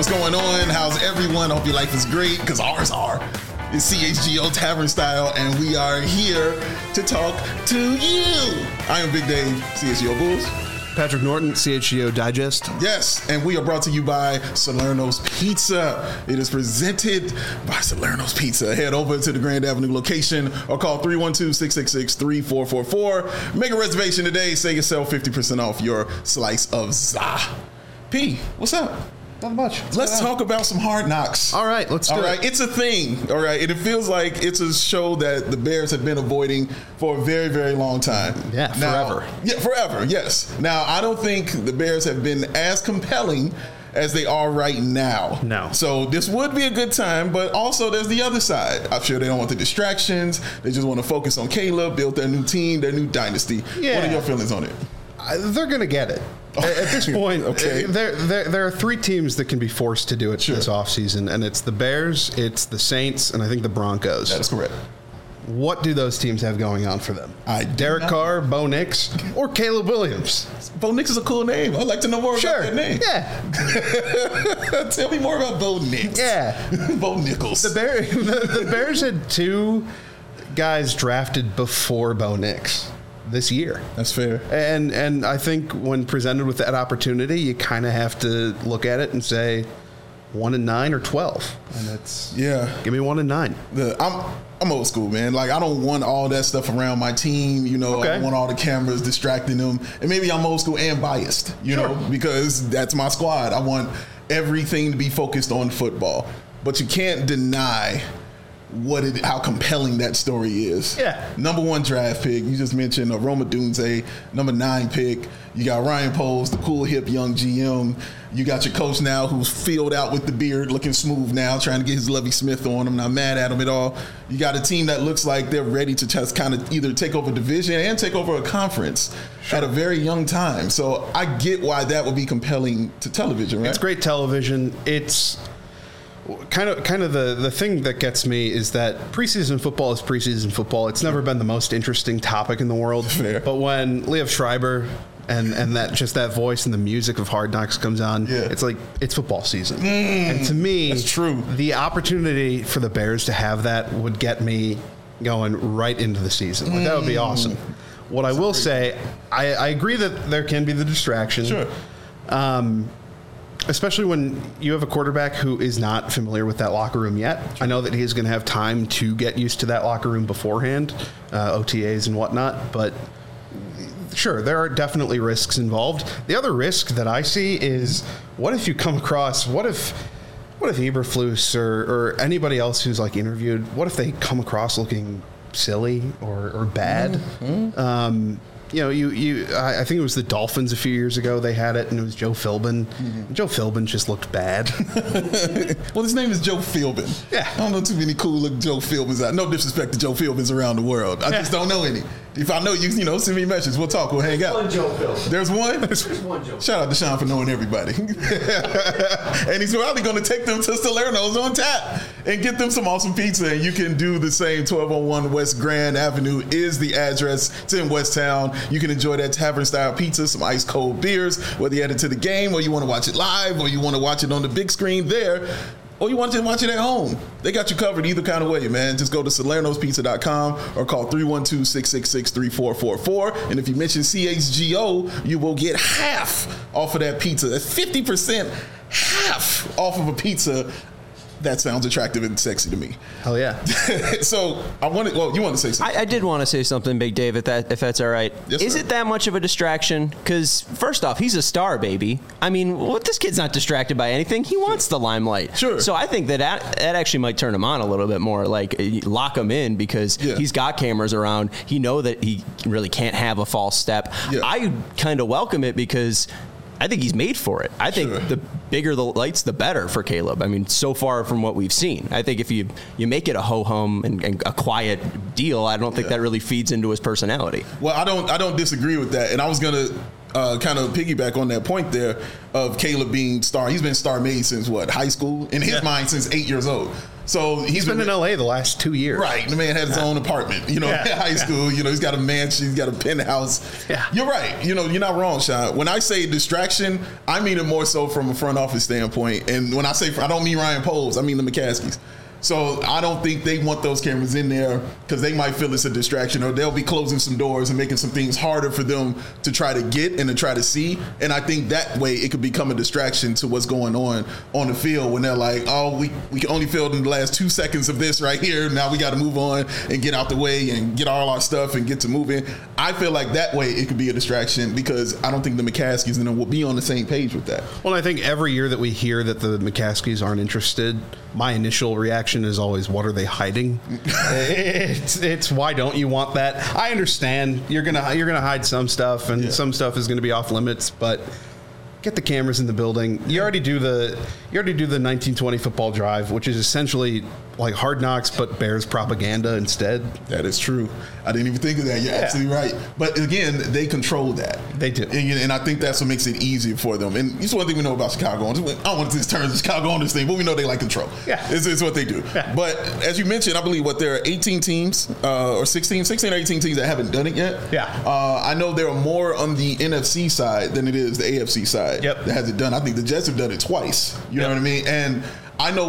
What's going on? How's everyone? Hope your life is great, because ours are. It's CHGO Tavern Style, and we are here to talk to you. I am Big Dave, CHGO Bulls. Patrick Norton, CHGO Digest. Yes, and we are brought to you by Salerno's Pizza. It is presented by Salerno's Pizza. Head over to the Grand Avenue location or call 312-666-3444. Make a reservation today. Save yourself 50% off your slice of za. P, what's up? Not much. Let's talk about some Hard Knocks. All right, let's do it. It's a thing. All right. And it feels like it's a show that the Bears have been avoiding for a very, very long time. Yeah, forever. Forever, yes. Now, I don't think the Bears have been as compelling as they are right now. No. So this would be a good time, but also there's the other side. I'm sure they don't want the distractions. They just want to focus on Caleb, build their new team, their new dynasty. Yeah. What are your feelings on it? They're going to get it. At this point, Okay. there are three teams that can be forced to do it this offseason, and it's the Bears, it's the Saints, and I think the Broncos. That is correct. What do those teams have going on for them? Derek not. Carr, Bo Nix, or Caleb Williams? Bo Nix is a cool name. I'd like to know more about that name. Yeah. Tell me more about Bo Nix. Yeah. Bo Nichols. The Bears had two guys drafted before Bo Nix this year. That's fair. And I think when presented with that opportunity, you kind of have to look at it and say 1-9 or 12. And it's give me 1-9. I'm old school, man. Like, I don't want all that stuff around my team. You know, I don't want all the cameras distracting them. And maybe I'm old school and biased, you know, because that's my squad. I want everything to be focused on football. But you can't deny how compelling that story is. Yeah. Number 1 draft pick. You just mentioned Roma Dunze, number 9 pick. You got Ryan Poles, the cool, hip, young GM. You got your coach now who's filled out with the beard, looking smooth now, trying to get his Lovie Smith on him. Not mad at him at all. You got a team that looks like they're ready to just kind of either take over division and take over a conference at a very young time. So I get why that would be compelling to television, right? It's great television. It's kind of the thing that gets me is that preseason football is preseason football. It's never been the most interesting topic in the world. Fair. But when Liev Schreiber and that voice and the music of Hard Knocks comes on, it's like it's football season. And to me, that's true. The opportunity for the Bears to have that would get me going right into the season. Like, that would be awesome. What I will say, I agree that there can be the distraction. Sure. Especially when you have a quarterback who is not familiar with that locker room yet. I know that he's going to have time to get used to that locker room beforehand, OTAs and whatnot, but sure, there are definitely risks involved. The other risk that I see is what if you come across, what if Eberflus or anybody else who's like interviewed, what if they come across looking silly or bad? You know, I think it was the Dolphins a few years ago. They had it, and it was Joe Philbin. Joe Philbin just looked bad. Well, his name is Joe Philbin. Yeah. I don't know too many cool-looking Joe Philbins out. No disrespect to Joe Philbins around the world. I just don't know any. If I know you, send me a message. We'll talk. We'll hang out. One Joe Philbin. There's one? There's one Joe. Shout out to Sean for knowing everybody. And he's probably going to take them to Salerno's on tap and get them some awesome pizza. And you can do the same. 1201 West Grand Avenue is the address. It's in West Town. You can enjoy that tavern-style pizza, some ice-cold beers, whether you're headed to the game or you want to watch it live or you want to watch it on the big screen there. Or you want to watch it at home. They got you covered either kind of way, man. Just go to salernospizza.com or call 312-666-3444. And if you mention CHGO, you will get half off of that pizza. That's 50% half off of a pizza. That sounds attractive and sexy to me. Hell yeah. So you want to say something? I did want to say something, Big Dave, if that's all right. Yes, Is sir. it that much of a distraction? Because first off, he's a star, baby. I mean, this kid's not distracted by anything. He wants the limelight. Sure. So I think that actually might turn him on a little bit more. Like, lock him in because he's got cameras around. He know that he really can't have a false step. Yeah. I kind of welcome it because I think he's made for it. I think the bigger the lights, the better for Caleb. I mean, so far from what we've seen, I think if you make it a ho-hum and a quiet deal, I don't think that really feeds into his personality. Well, I don't disagree with that. And I was going to kind of piggyback on that point there of Caleb being star. He's been star made since what, high school? In his mind, since 8 years old. So he's been in LA the last 2 years. Right. The man had his own apartment, in high school. He's got a mansion, he's got a penthouse. Yeah. You're right. You're not wrong, Sean. When I say distraction, I mean it more so from a front office standpoint. And when I say, I don't mean Ryan Poles, I mean the McCaskies. So I don't think they want those cameras in there because they might feel it's a distraction, or they'll be closing some doors and making some things harder for them to try to get and to try to see. And I think that way it could become a distraction to what's going on the field when they're like, oh, we can only film in the last 2 seconds of this right here. Now we got to move on and get out the way and get all our stuff and get to moving. I feel like that way it could be a distraction because I don't think the McCaskies and them will be on the same page with that. Well, I think every year that we hear that the McCaskies aren't interested, my initial reaction is always, what are they hiding? It's why don't you want that? I understand you're gonna hide some stuff, and some stuff is gonna be off limits, but get the cameras in the building. You already do the 1920 football drive, which is essentially like Hard Knocks but Bears propaganda instead. That is true. I didn't even think of that. You're absolutely right. But again, they control that. They do. And I think that's what makes it easier for them. And it's one thing we know about Chicago. I don't want to turn the Chicago on this thing, but we know they like control. Yeah. It's what they do. Yeah. But as you mentioned, I believe there are 18 teams or 16 or 18 teams that haven't done it yet. Yeah. I know there are more on the NFC side than it is the AFC side that has it done. I think the Jets have done it twice. You know what I mean? And I know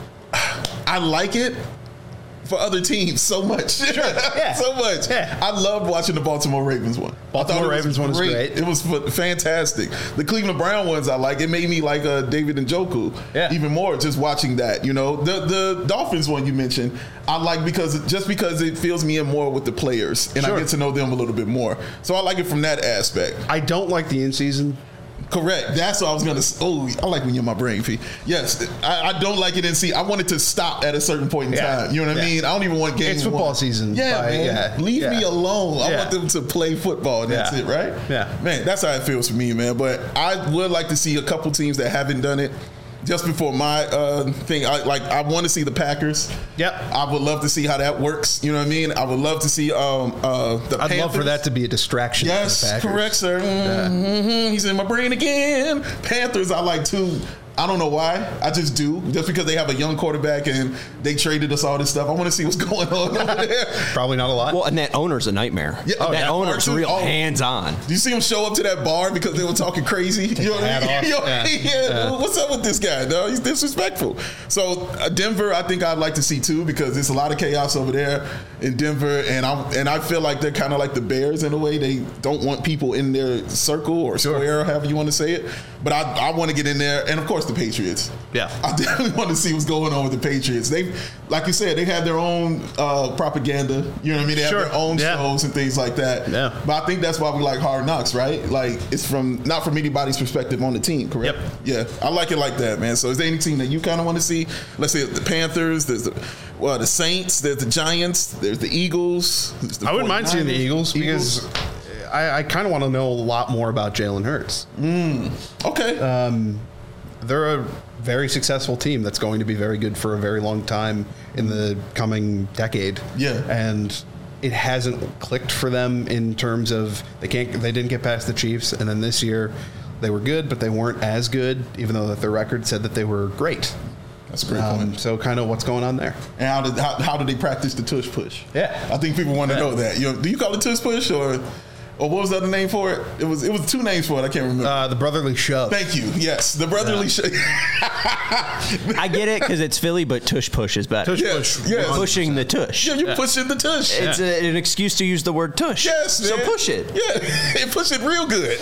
I like it for other teams so much. Sure. Yeah. So much. Yeah. I loved watching the Baltimore Ravens one. Baltimore Ravens one was great. It was fantastic. The Cleveland Brown ones I like. It made me like David Njoku even more just watching that. The Dolphins one you mentioned, I like because it fills me in more with the players and I get to know them a little bit more. So I like it from that aspect. I don't like the in-season. Correct. That's what I was going to. Oh, I like when you're in my brain, P. Yes, I don't like it in see. I want it to stop at a certain point in time. You know what I mean? I don't even want games. It's football season. Yeah, man. Leave me alone. I want them to play football. And that's it, right? Yeah, man. That's how it feels for me, man. But I would like to see a couple teams that haven't done it. Just before my thing, I want to see the Packers. Yep. I would love to see how that works. You know what I mean? I would love to see the Panthers. I'd love for that to be a distraction. Yes, correct, sir. Mm-hmm. He's in my brain again. Panthers, I like too. I don't know why. I just do. Just because they have a young quarterback and they traded us all this stuff. I want to see what's going on over there. Probably not a lot. Well, and that owner's a nightmare. Yeah, that owner's real hands-on. Do you see him show up to that bar because they were talking crazy? You know what I mean? What's up with this guy? No, he's disrespectful. So Denver, I think I'd like to see too because there's a lot of chaos over there in Denver, and I feel like they're kind of like the Bears in a way. They don't want people in their circle or square, however you want to say it. But I want to get in there, and of course the Patriots. Yeah, I definitely want to see what's going on with the Patriots. They, like you said, they have their own propaganda. You know what I mean? They have their own shows and things like that. Yeah. But I think that's why we like Hard Knocks, right? Like it's not from anybody's perspective on the team, correct? Yep. Yeah, I like it like that, man. So is there any team that you kind of want to see? Let's say the Panthers. There's the Saints. There's the Giants. There's the Eagles. I wouldn't mind seeing the Eagles because I kind of want to know a lot more about Jalen Hurts. Okay. They're a very successful team that's going to be very good for a very long time in the coming decade. Yeah. And it hasn't clicked for them in terms of they didn't get past the Chiefs, and then this year they were good, but they weren't as good, even though that their record said that they were great. That's a great point. So kind of what's going on there. And how do they practice the tush push? Yeah. I think people want to know that. Do you call it tush push or what was the other name for it? It was two names for it. I can't remember. The brotherly shove. Thank you. Yes, the brotherly shove. I get it because it's Philly, but tush push is better. Tush push. Yes. Pushing the tush. Yeah, you're pushing the tush. It's an excuse to use the word tush. Yes, man. So push it. Yeah, push it real good.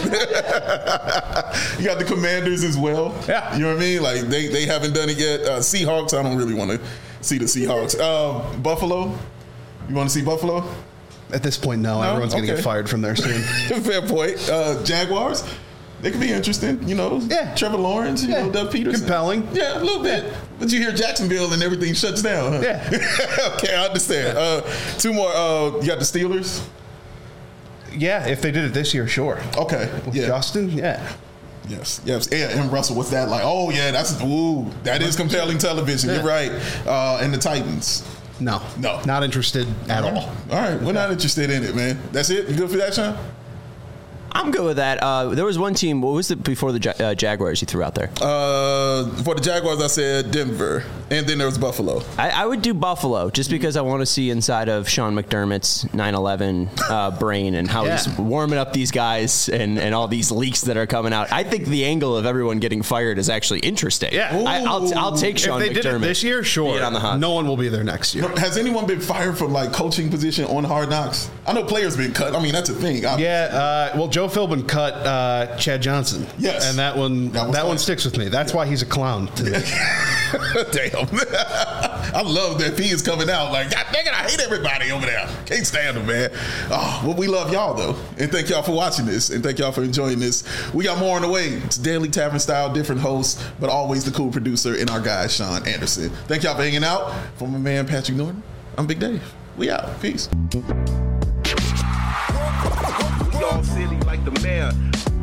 You got the Commanders as well. Yeah. You know what I mean? Like they haven't done it yet. Seahawks, I don't really want to see the Seahawks. Buffalo, you want to see Buffalo? At this point, no. Everyone's going to get fired from there soon. Fair point. Jaguars, they could be interesting. Yeah. Trevor Lawrence, Doug Peterson. Compelling. Yeah, a little bit. But you hear Jacksonville and everything shuts down. Huh? Yeah. Okay, I understand. Two more. You got the Steelers? Yeah, if they did it this year, sure. Okay. With Justin, yeah. Yes. And Russell, what's that like? Oh, yeah, that is compelling television. You're right. And the Titans. No. Not interested at all. All right. We're not interested in it, man. That's it? You good for that, Sean? I'm good with that. There was one team. What was it before the Jaguars you threw out there? For the Jaguars, I said Denver, and then there was Buffalo. I would do Buffalo just because I want to see inside of Sean McDermott's 9/11 brain and how he's warming up these guys and all these leaks that are coming out. I think the angle of everyone getting fired is actually interesting. Yeah. I'll take Sean if they McDermott. did it this year, sure. Get on the hot. No one will be there next year. Has anyone been fired from like coaching position on Hard Knocks? I know players been cut. I mean, that's a thing. Yeah, well, Joe Philbin cut Chad Johnson. Yes. And that one sticks with me. That's why he's a clown to me. Damn. I love that P is coming out like, God dang it, I hate everybody over there. Can't stand them, man. Oh, well, we love y'all, though. And thank y'all for watching this. And thank y'all for enjoying this. We got more on the way. It's Daily Tavern Style, different hosts, but always the cool producer and our guy, Sean Anderson. Thank y'all for hanging out. For my man, Patrick Norton, I'm Big Dave. We out. Peace. We all silly like the mayor.